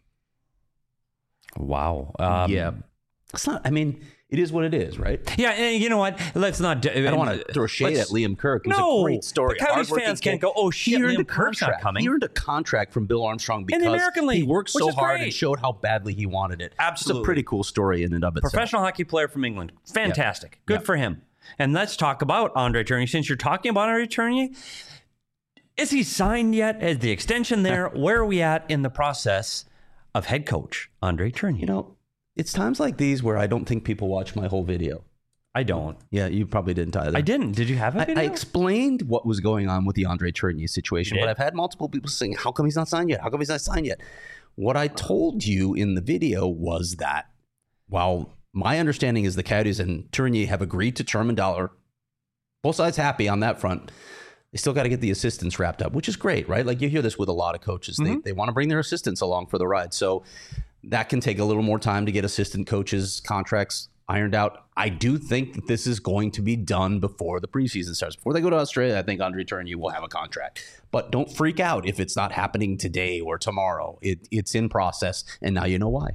Wow. Um, yeah. It's not, I mean, it is what it is, right? Yeah, and you know what? Let's not. I don't want to throw shade at Liam Kirk. It was No, a great story. the Coyotes Hardworking fans kid. can't go, oh, shit, He earned Liam a Kirk's not contract. coming. He earned a contract from Bill Armstrong because In the American League, he worked which so is hard great. and showed how badly he wanted it. Absolutely. It's a pretty cool story in and of itself. Professional hockey player from England. Fantastic. Good Yeah. for him. And let's talk about Andre Tournier. Since you're talking about Andre Tournier, is he signed yet? Is the extension there? Where are we at in the process of head coach Andre Tournier? You know, it's times like these where I don't think people watch my whole video. I don't. Yeah, you probably didn't either. I didn't. Did you have a I, video? I explained what was going on with the Andre Tourigny situation, You but did? I've had multiple people saying, how come he's not signed yet? How come he's not signed yet? What I told you in the video was that while my understanding is the Coyotes and Tourigny have agreed to term and dollar, both sides happy on that front, they still got to get the assistants wrapped up, which is great, right? Like you hear this with a lot of coaches. Mm-hmm. They, they want to bring their assistants along for the ride. So that can take a little more time to get assistant coaches' contracts ironed out. I do think that this is going to be done before the preseason starts. Before they go to Australia, I think Andre Tourigny will have a contract. But don't freak out if it's not happening today or tomorrow. It, it's in process, and now you know why.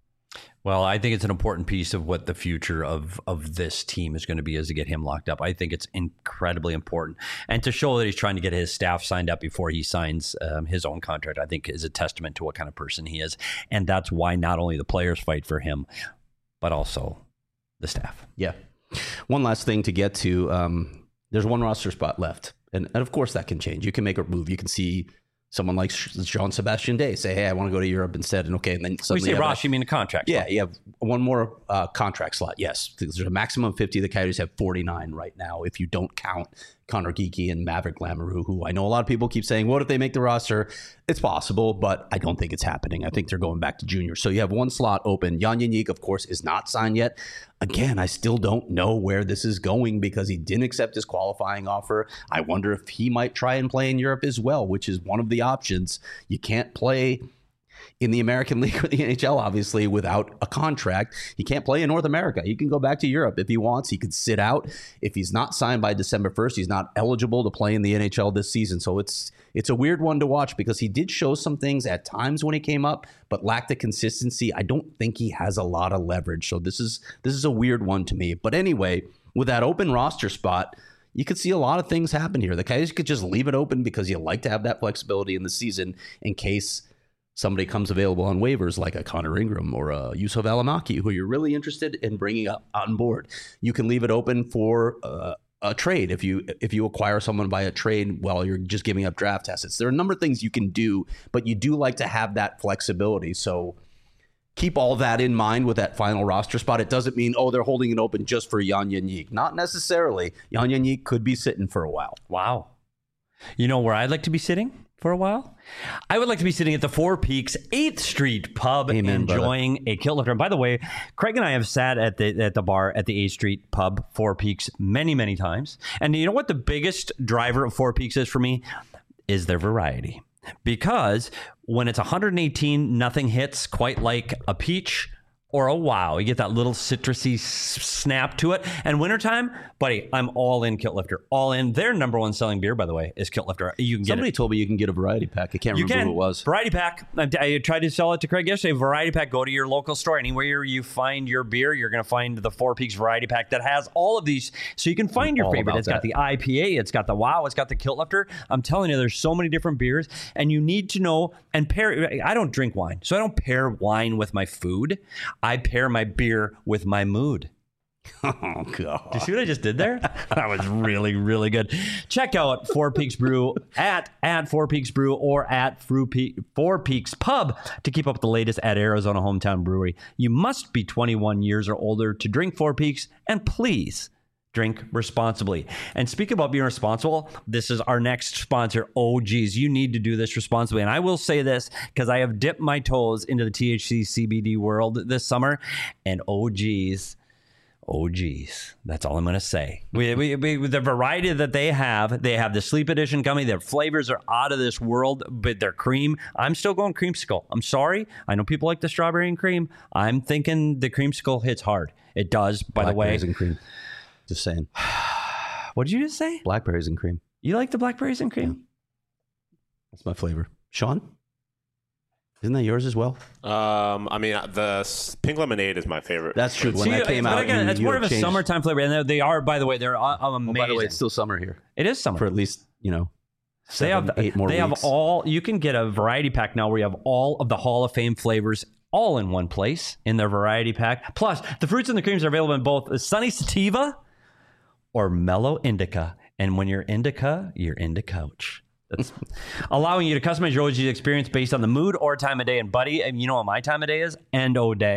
Well, I think it's an important piece of what the future of, of this team is going to be is to get him locked up. I think it's incredibly important. And to show that he's trying to get his staff signed up before he signs um, his own contract, I think is a testament to what kind of person he is. And that's why not only the players fight for him, but also the staff. Yeah. One last thing to get to. Um, there's one roster spot left. And, and of course that can change. You can make a move. You can see someone like Jean-Sebastien Day say, hey, I want to go to Europe instead. And okay, and then We suddenly say you have Ross, a- you mean a contract? Yeah, you have one more uh, contract slot. Yes, because there's a maximum of fifty. The Coyotes have forty-nine right now if you don't count Connor Geekie and Maverick Lamoureux, who I know a lot of people keep saying, what if they make the roster? It's possible, but I don't think it's happening. I think they're going back to junior. So you have one slot open. Jan Jeník, of course, is not signed yet. Again, I still don't know where this is going because he didn't accept his qualifying offer. I wonder if he might try and play in Europe as well, which is one of the options. You can't play in the American League or the N H L, obviously, without a contract. He can't play in North America. He can go back to Europe if he wants. He could sit out. If he's not signed by December first, he's not eligible to play in the N H L this season. So it's it's a weird one to watch because he did show some things at times when he came up, but lacked the consistency. I don't think he has a lot of leverage. So this is this is a weird one to me. But anyway, with that open roster spot, you could see a lot of things happen here. The Coyotes could just leave it open because you like to have that flexibility in the season in case somebody comes available on waivers like a Connor Ingram or a Yusuf Alamaki, who you're really interested in bringing up on board. You can leave it open for uh, a trade if you if you acquire someone by a trade while you're just giving up draft assets. There are a number of things you can do, but you do like to have that flexibility. So keep all that in mind with that final roster spot. It doesn't mean, oh, they're holding it open just for Jan Jeník. Not necessarily. Jan Jeník could be sitting for a while. Wow. You know where I'd like to be sitting for a while? I would like to be sitting at the Four Peaks eighth Street Pub, Amen, enjoying a kilt lifter. And by the way, Craig and I have sat at the at the bar at the eighth Street Pub, Four Peaks, many, many times. And you know what the biggest driver of Four Peaks is for me? Is their variety. Because when it's one hundred eighteen, nothing hits quite like a peach or a wow. You get that little citrusy s- snap to it. And wintertime, buddy, I'm all in Kilt Lifter. All in. Their number one selling beer, by the way, is Kilt Lifter. You can get Somebody it. told me you can get a variety pack. I can't You remember can. who it was. Variety pack. I, I tried to sell it to Craig yesterday. Variety pack. Go to your local store. Anywhere you find your beer, you're going to find the Four Peaks Variety Pack that has all of these. So you can find your all favorite. about It's got that. the I P A. It's got the wow. It's got the Kilt Lifter. I'm telling you, there's so many different beers. And you need to know and pair. I don't drink wine. So I don't pair wine with my food. I pair my beer with my mood. Oh, God. Do you see what I just did there? That was really, really good. Check out Four Peaks Brew at, at Four Peaks Brew or at Four Pe- Four Peaks Pub to keep up with the latest at Arizona Hometown Brewery. You must be twenty-one years or older to drink Four Peaks, and please drink responsibly. And speaking about being responsible, this is our next sponsor, O G's. You need to do this responsibly. And I will say this because I have dipped my toes into the T H C C B D world this summer, and O G's Oh, geez. That's all I'm going to say. We, we, we, the variety that they have, they have the Sleep Edition coming. Their flavors are out of this world, but their cream, I'm still going creamsicle. I'm sorry. I know people like the strawberry and cream. I'm thinking the creamsicle hits hard. It does, by the way. Blackberries and cream. Just saying. What did you just say? Blackberries and cream. You like the blackberries and cream? That's my flavor. Sean? Isn't that yours as well? Um, I mean, the s- pink lemonade is my favorite. That's true. When See, that came but out, again, you- it's you more have of a changed- summertime flavor. And they- they are, by the way, they're uh, amazing. Oh, by the way, it's still summer here it is summer. for at least, you know, They seven, have eight more They weeks. have all. You can get a variety pack now where you have all of the Hall of Fame flavors all in one place in their variety pack. Plus, the fruits and the creams are available in both Sunny Sativa or Mellow Indica. And when you're indica, you're into couch. That's allowing you to customize your O G experience based on the mood or time of day. And buddy, and you know what my time of day is? End O day.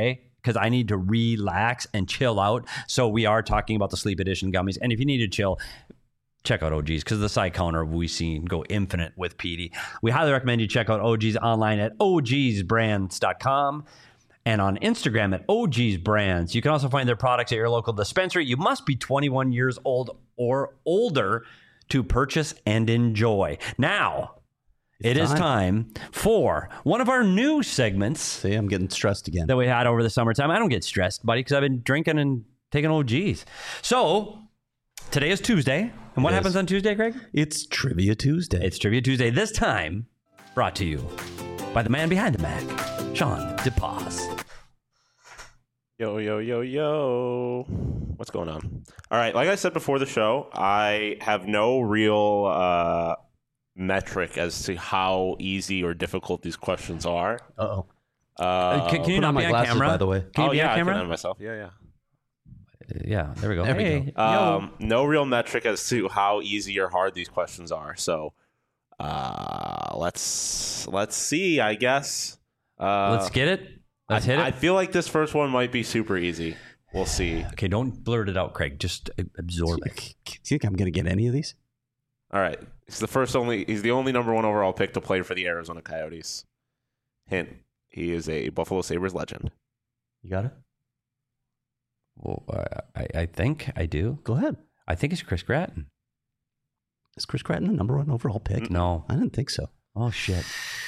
because I need to relax and chill out. So we are talking about the Sleep Edition gummies. And if you need to chill, check out O G's because the side counter we've seen go infinite with Petey. We highly recommend you check out O G's online at O Gs brands dot com and on Instagram at O G's Brands. You can also find their products at your local dispensary. You must be twenty-one years old or older to purchase and enjoy. Now, it's it time. is time for one of our new segments. See, I'm getting stressed again. That we had over the summertime. I don't get stressed, buddy, because I've been drinking and taking O G's. So, today is Tuesday. And what It happens is. on Tuesday, Greg? It's Trivia Tuesday. It's Trivia Tuesday. This time, brought to you by the man behind the Mac, Sean DePaz. Yo, yo, yo, yo. What's going on? All right. Like I said before the show, I have no real uh, metric as to how easy or difficult these questions are. Uh-oh. Uh, can, can you put not on be my on glasses, camera? by the way. Can you oh, be yeah, on I can camera? on myself. Yeah, yeah. Yeah, there we go. There we hey, go. Um, no real metric as to how easy or hard these questions are. So uh, let's let's see. I guess. Uh, Let's get it. Let's I, hit it. I feel like this first one might be super easy. We'll see. Okay, don't blurt it out, Craig. Just absorb it. Do you think I'm going to get any of these? All right. He's the first only. He's the only number one overall pick to play for the Arizona Coyotes. Hint: he is a Buffalo Sabres legend. You got it? Well, I, I think I do. Go ahead. I think it's Chris Gratton. Is Chris Gratton the number one overall pick? No. I didn't think so. Oh, shit.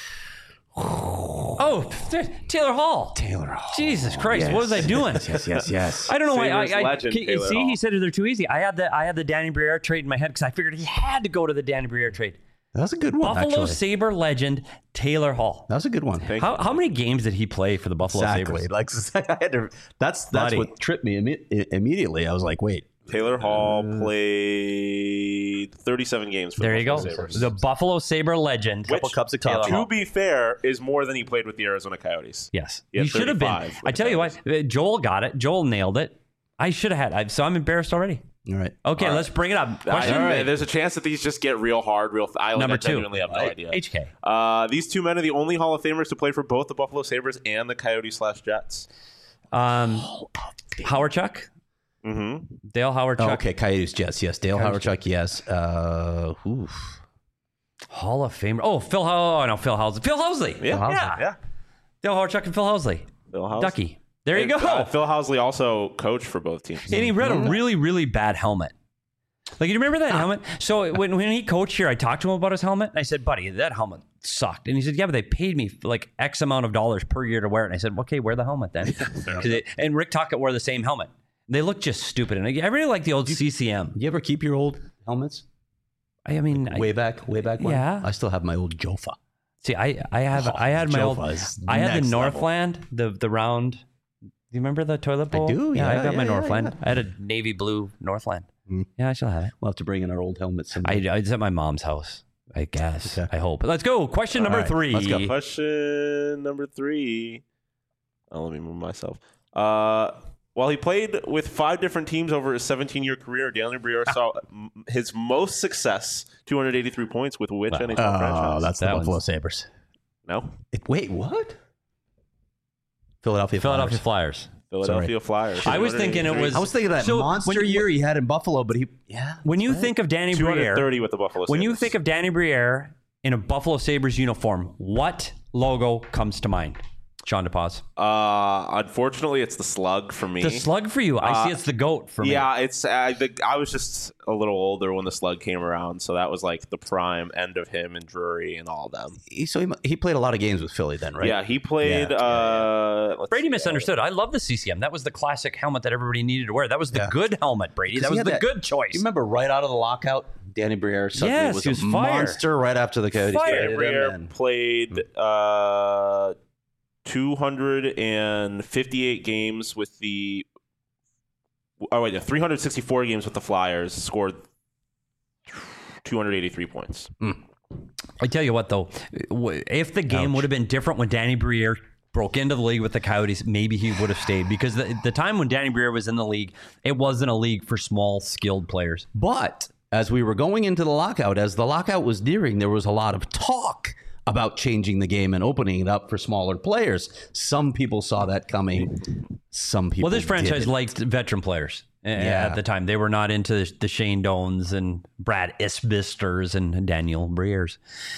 Oh, Taylor Hall. Taylor Hall. Jesus Christ, Yes. what was I doing? Yes, yes, yes. I don't know why. I, Sabres I, legend, can- Taylor see, Hall. he said they're too easy. I had the I had the Danny Briere trade in my head because I figured he had to go to the Danny Briere trade. That was a good one, Buffalo actually. Sabre legend Taylor Hall. That was a good one. Thank How how many games did he play for the Buffalo Exactly. Sabres? Like I had to, that's that's Buddy. what tripped me imme- immediately. I was like, wait. Taylor Hall played thirty-seven games for There the you go. Buffalo Sabres. The Buffalo Sabre legend. Which, cups of Taylor coffee. to Hall. be fair, is more than he played with the Arizona Coyotes. Yes. Yeah, he should have been. thirty-five with I the tell you what, uh, Joel got it. Joel nailed it. I should have had. I, so I'm embarrassed already. All right. Okay, All right. let's bring it up. I- Question all right, there's a chance that these just get real hard, real. I number I two. genuinely have no Uh, idea. H K. Uh, these two men are the only Hall of Famers to play for both the Buffalo Sabres and the Coyotes slash Jets. Um, Howard Chuck. Mm-hmm. Dale Howard Oh, Chuck. okay, Coyotes, Jets, yes. Dale Coyotes, Howard, yes. Uh, oof. Hall of Famer. Oh, Phil. How? Oh no, Phil Housley. Phil Housley. Yeah, Housley. yeah. yeah. Dale Howard Chuck and Phil Housley. Phil Housley. Ducky. There you And, go. uh, Phil Housley also coached for both teams. And he read a really, really bad helmet. Like, you remember that helmet? So when, when he coached here, I talked to him about his helmet. And I said, buddy, that helmet sucked. And he said, yeah, but they paid me like X amount of dollars per year to wear it. And I said, okay, wear the helmet then. 'Cause it- and Rick Tocchet wore the same helmet. They look just stupid. And I I really like the old C C M. You ever keep your old helmets? I mean, I, Way back, way back when? Yeah. I still have my old Jofa. see, I, I have, Oh, I had my old, Jofa is I had the next level. Northland, the, the round. Do you remember the toilet bowl? do, Yeah, I yeah, got my yeah, Northland. yeah. I had a navy blue Northland. Mm. Yeah, I still have it. We'll have to bring in our old helmets. I, someday. I, it's at my mom's house, I guess. Okay. I hope. Let's go. Question number All right, three. let's go. Question number three. Oh, let me move myself. Uh, while he played with five different teams over his seventeen-year career, Danny Briere saw m- his most success, two hundred eighty-three points, with which N H L Oh, franchise? that's That the Buffalo one's- Sabres. No, It- wait, what? Philadelphia Philadelphia Flyers. Flyers. Philadelphia Flyers. I was thinking it was- I was thinking of that So, monster when you- year he had in Buffalo, but he, yeah. When you think of Danny two hundred Briere, thirty with the Buffalo when you Sabres. think of Danny Briere in a Buffalo Sabres uniform, what logo comes to mind? Sean DePaz. Uh, unfortunately, it's the slug for me. The slug for you. I Uh, see it's the goat for me. Yeah, it's. I think I was just a little older when the slug came around, so that was like the prime end of him and Drury and all of them. He, so he, he played a lot of games with Philly then, right? Yeah, he played. Yeah, uh, let's Brady see, misunderstood. I love the C C M. That was the classic helmet that everybody needed to wear. That was the Yeah. good helmet, Brady. 'Cause That he was had the that- good choice. You remember right out of the lockout, Danny Briere suddenly Yes, was he was a fire. monster right after the Coyotes Fire. traded him, Briere and- played uh, two hundred fifty-eight games with the. Oh wait, yeah, three hundred sixty-four games with the Flyers. Scored two hundred eighty-three points. I tell you what, though, w- if the game Ouch. would have been different when Danny Briere broke into the league with the Coyotes, maybe he would have stayed. Because the, the time when Danny Briere was in the league, it wasn't a league for small, skilled players. But as we were going into the lockout, as the lockout was nearing, there was a lot of talk about changing the game and opening it up for smaller players. Some people saw that coming. Some people Well, this franchise didn't. liked veteran players uh, Yeah. at the time. They were not into the Shane Doans and Brad Isbisters and Daniel Briers.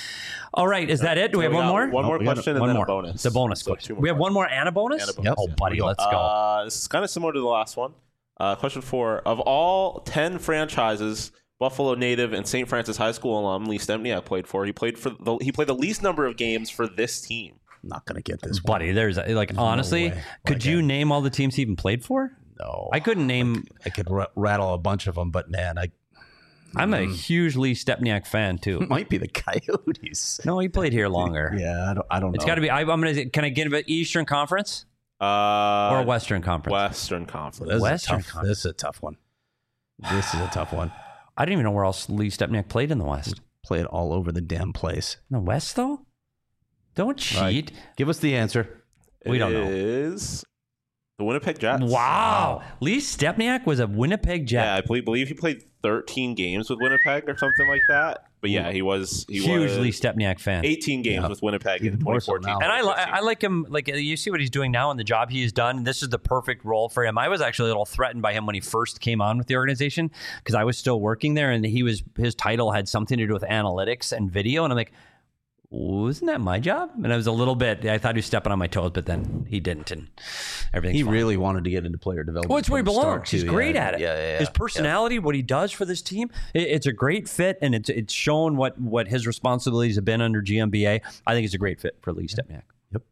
All right, is that it? Do we So have one got more? One more we got question one and then more. a bonus. The bonus So question. two more We have one more and a bonus? And a bonus. Yep. Oh, buddy, Here we go. let's go. Uh, this is kind of similar to the last one. Uh, question four. Of all ten franchises Buffalo native and Saint Francis High School alum Lee Stempniak played for, he played for the he played the least number of games for this team. I'm not going to get this one. Buddy, there's like, honestly, way. could Like you a- name all the teams he even played for? No. I couldn't name. I could r- rattle a bunch of them, but man, I I'm a Mm. huge Lee Stempniak fan, too. might be the Coyotes. No, he played here longer. Yeah, I don't, I don't know. It's got to be. I, I'm going to. Can I get an Eastern Conference Uh, or a Western Conference? Western Conference. This is, a Western tough, Conference. this is a tough one. This is a tough one. I didn't even know where else Lee Stempniak played in the West. Played all over the damn place. In the West, though? Don't cheat. Right. Give us the answer. We don't know. Is the Winnipeg Jets. Wow. Lee Stempniak was a Winnipeg Jet. Yeah, I believe, believe he played thirteen games with Winnipeg or something like that. But yeah, he was he Huge was Lee Stempniak fan. eighteen games Yeah. with Winnipeg Even in more twenty so fourteen. now. And I, li- I like him. Like, you see what he's doing now and the job he's done. This is the perfect role for him. I was actually a little threatened by him when he first came on with the organization because I was still working there, and he was his title had something to do with analytics and video, and I'm like, wasn't that my job? And I was a little bit. I thought he was stepping on my toes, but then he didn't, and everything. He really wanted to get into player development. Well, it's where he from the start, belongs. He's too. great Yeah, at it. Yeah, yeah, yeah. His personality, what he does for this team, it, it's a great fit, and it's it's shown what what his responsibilities have been under G M B A. I think it's a great fit for Lee Stempniak.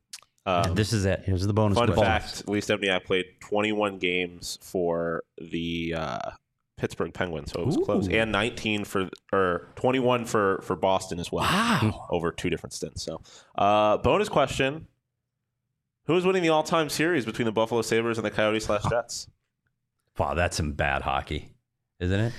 Um, This is it. Here's the bonus. Fun question. fact: Lee Stempniak played twenty-one games for the uh, Pittsburgh Penguins, so it was close, Ooh. and nineteen for or twenty-one for for Boston as well. Wow. Over two different stints. So, uh, bonus question: who is winning the all-time series between the Buffalo Sabres and the Coyotes slash Jets? Wow, that's some bad hockey, isn't it?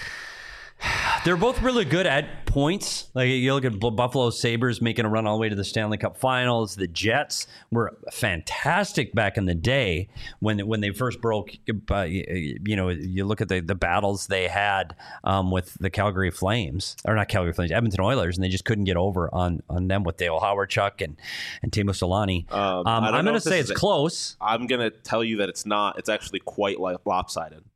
They're both really good at points. Like you look at Bu- Buffalo Sabres making a run all the way to the Stanley Cup Finals. The Jets were fantastic back in the day when when they first broke. Uh, you, you know, you look at the, the battles they had um, with the Calgary Flames, or not Calgary Flames, Edmonton Oilers, and they just couldn't get over on on them with Dale Howardchuk and and Teemu Solani. Um, Um, I don't I'm know going to if this say is it's a- close. I'm gonna tell you that it's not. It's actually quite like lopsided.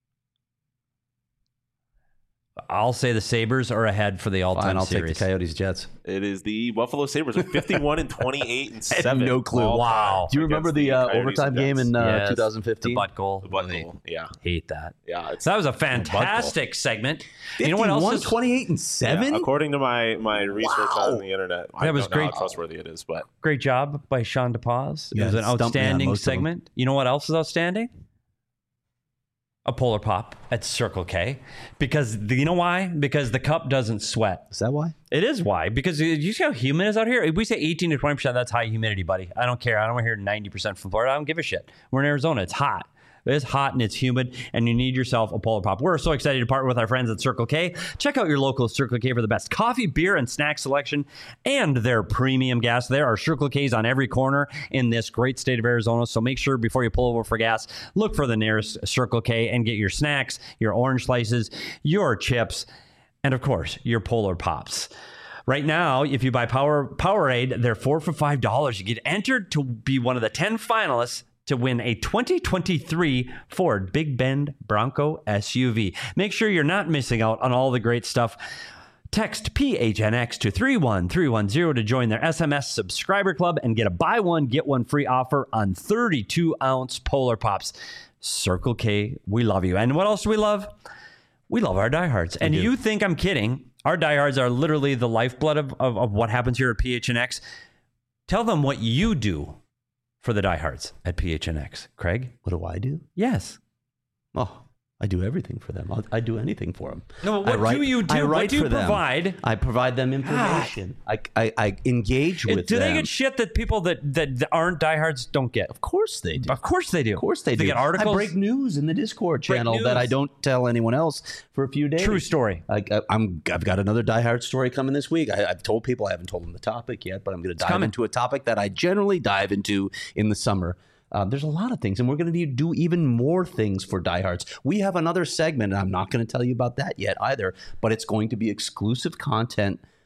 I'll say the Sabres are ahead for the all-time Fine, I'll series. take the Coyotes Jets. It is the Buffalo Sabres with fifty-one and twenty-eight and I had seven. no clue. all Wow. time Do you remember against the, uh, Coyotes overtime and game Jets. in uh, Yes, twenty the fifteen? butt goal. The butt goal. Yeah, Hate that. yeah. It's So that was a fantastic segment. You know what else? fifty-one, Is, twenty-eight, and yeah, seven? according to my my research Wow. on the internet. I That was don't know great. how trustworthy it is, but great job by Sean DePaz. It Yeah, was an stumped me on outstanding most of them. segment. You know what else is outstanding? A Polar Pop at Circle K. Because the, you know why? Because the cup doesn't sweat. Is that why? It is why. Because you you see how humid it is out here? If we say eighteen to twenty percent, that's high humidity, buddy. I don't care. I don't want to hear ninety percent from Florida. I don't give a shit. We're in Arizona. It's hot. It's hot and it's humid, and you need yourself a Polar Pop. We're so excited to partner with our friends at Circle K. Check out your local Circle K for the best coffee, beer, and snack selection, and their premium gas. There are Circle K's on every corner in this great state of Arizona, so make sure before you pull over for gas, look for the nearest Circle K and get your snacks, your orange slices, your chips, and of course, your Polar Pops. Right now, if you buy Power Powerade, they're four for five dollars. You get entered to be one of the ten finalists to win a twenty twenty-three Ford Big Bend Bronco S U V. Make sure you're not missing out on all the great stuff. Text P H N X to three one three one zero to join their S M S subscriber club and get a buy one, get one free offer on thirty-two ounce Polar Pops. Circle K, we love you. And what else do we love? We love our diehards. And you think I'm kidding? Our diehards are literally the lifeblood of, of, of what happens here at P H N X. Tell them what you do for the diehards at P H N X. Craig? What do I do? Yes. Oh, I do everything for them. I'll, I do anything for them. No, but I what write, do you do? I What write do you for them. provide? I provide them information. I, I, I engage with do them. they get shit that people that, that that aren't diehards don't get? Of course they do. Of course they do. Of course they do. They get articles. I break news in the Discord Break channel that I news. don't tell anyone else for a few days. True story. I, I, I'm, I've got another Die Hard story coming this week. I, I've told people, I haven't told them the topic yet, but I'm going to dive coming. into a topic that I generally dive into in the summer. Uh, there's a lot of things, and we're going to do even more things for diehards. We have another segment, and I'm not going to tell you about that yet either, but it's going to be exclusive content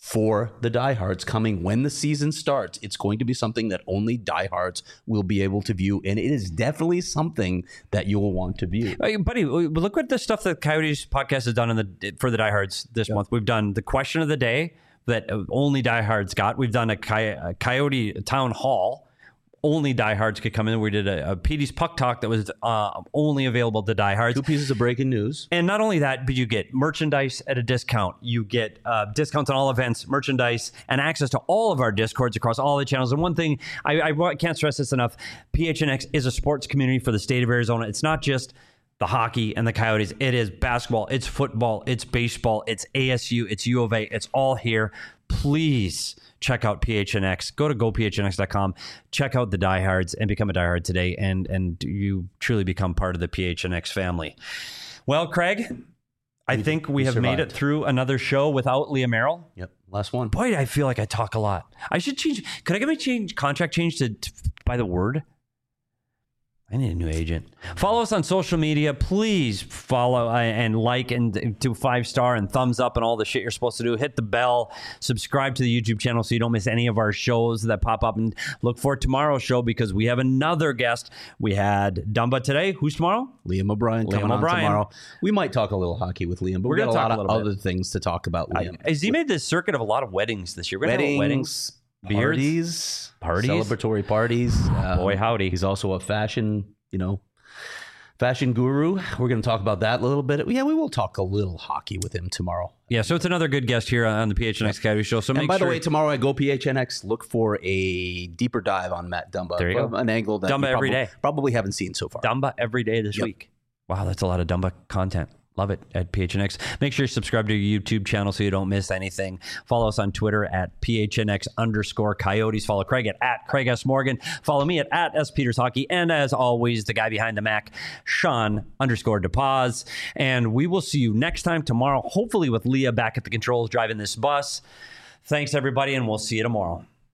for the diehards coming when the season starts. It's going to be something that only diehards will be able to view, and it is definitely something that you will want to view. Hey, buddy, look at the stuff that Coyotes podcast has done in the for the diehards this yep. month. We've done the question of the day that only diehards got. We've done a, coy- a Coyote town hall. Only diehards could come in. We did a, a P D's Puck Talk that was uh, only available to diehards. Two pieces of breaking news. And not only that, but you get merchandise at a discount. You get uh, discounts on all events, merchandise, and access to all of our Discords across all the channels. And one thing, I, I can't stress this enough, P H N X is a sports community for the state of Arizona. It's not just the hockey and the Coyotes. It is basketball, it's football, it's baseball, it's A S U, it's U of A. It's all here. Please check out P H N X. Go to go P H N X dot com. Check out the diehards and become a diehard today. And and you truly become part of the P H N X family. Well, Craig, I we, think we, we have survived. made it through another show without Leah Merrill. Yep, last one. Boy, I feel like I talk a lot. I should change. Could I get my change contract changed to, to by the word? I need a new agent. Follow us on social media. Please follow and like and do five star and thumbs up and all the shit you're supposed to do. Hit the bell. Subscribe to the YouTube channel so you don't miss any of our shows that pop up. And look for tomorrow's show because we have another guest. We had Dumba today. Who's tomorrow? Liam O'Brien. Liam coming O'Brien. On tomorrow. We might talk a little hockey with Liam, but we're we got gonna a lot talk of a little other bit. things to talk about. Liam. I, has he made this circuit of a lot of weddings this year? We're weddings, weddings, parties, parties, celebratory parties. Um, Boy, howdy! He's also a fashion, you know. Fashion guru. We're going to talk about that a little bit. Yeah, we will talk a little hockey with him tomorrow. Yeah, so it's another good guest here on the P H N X Coyote Show. So and make by sure... the way, tomorrow at Go P H N X, look for a deeper dive on Matt Dumba. There you from go. An angle that Dumba you every probably, day. probably haven't seen so far. Dumba every day this yep. week. Wow, that's a lot of Dumba content. Love it at P H N X. Make sure you subscribe to your YouTube channel so you don't miss anything. Follow us on Twitter at P H N X underscore Coyotes. Follow Craig at, at Craig S. Morgan. Follow me at, at S. Peters Hockey. And as always, the guy behind the Mac, Sean underscore DePaz. And we will see you next time tomorrow, hopefully with Leah back at the controls driving this bus. Thanks, everybody, and we'll see you tomorrow.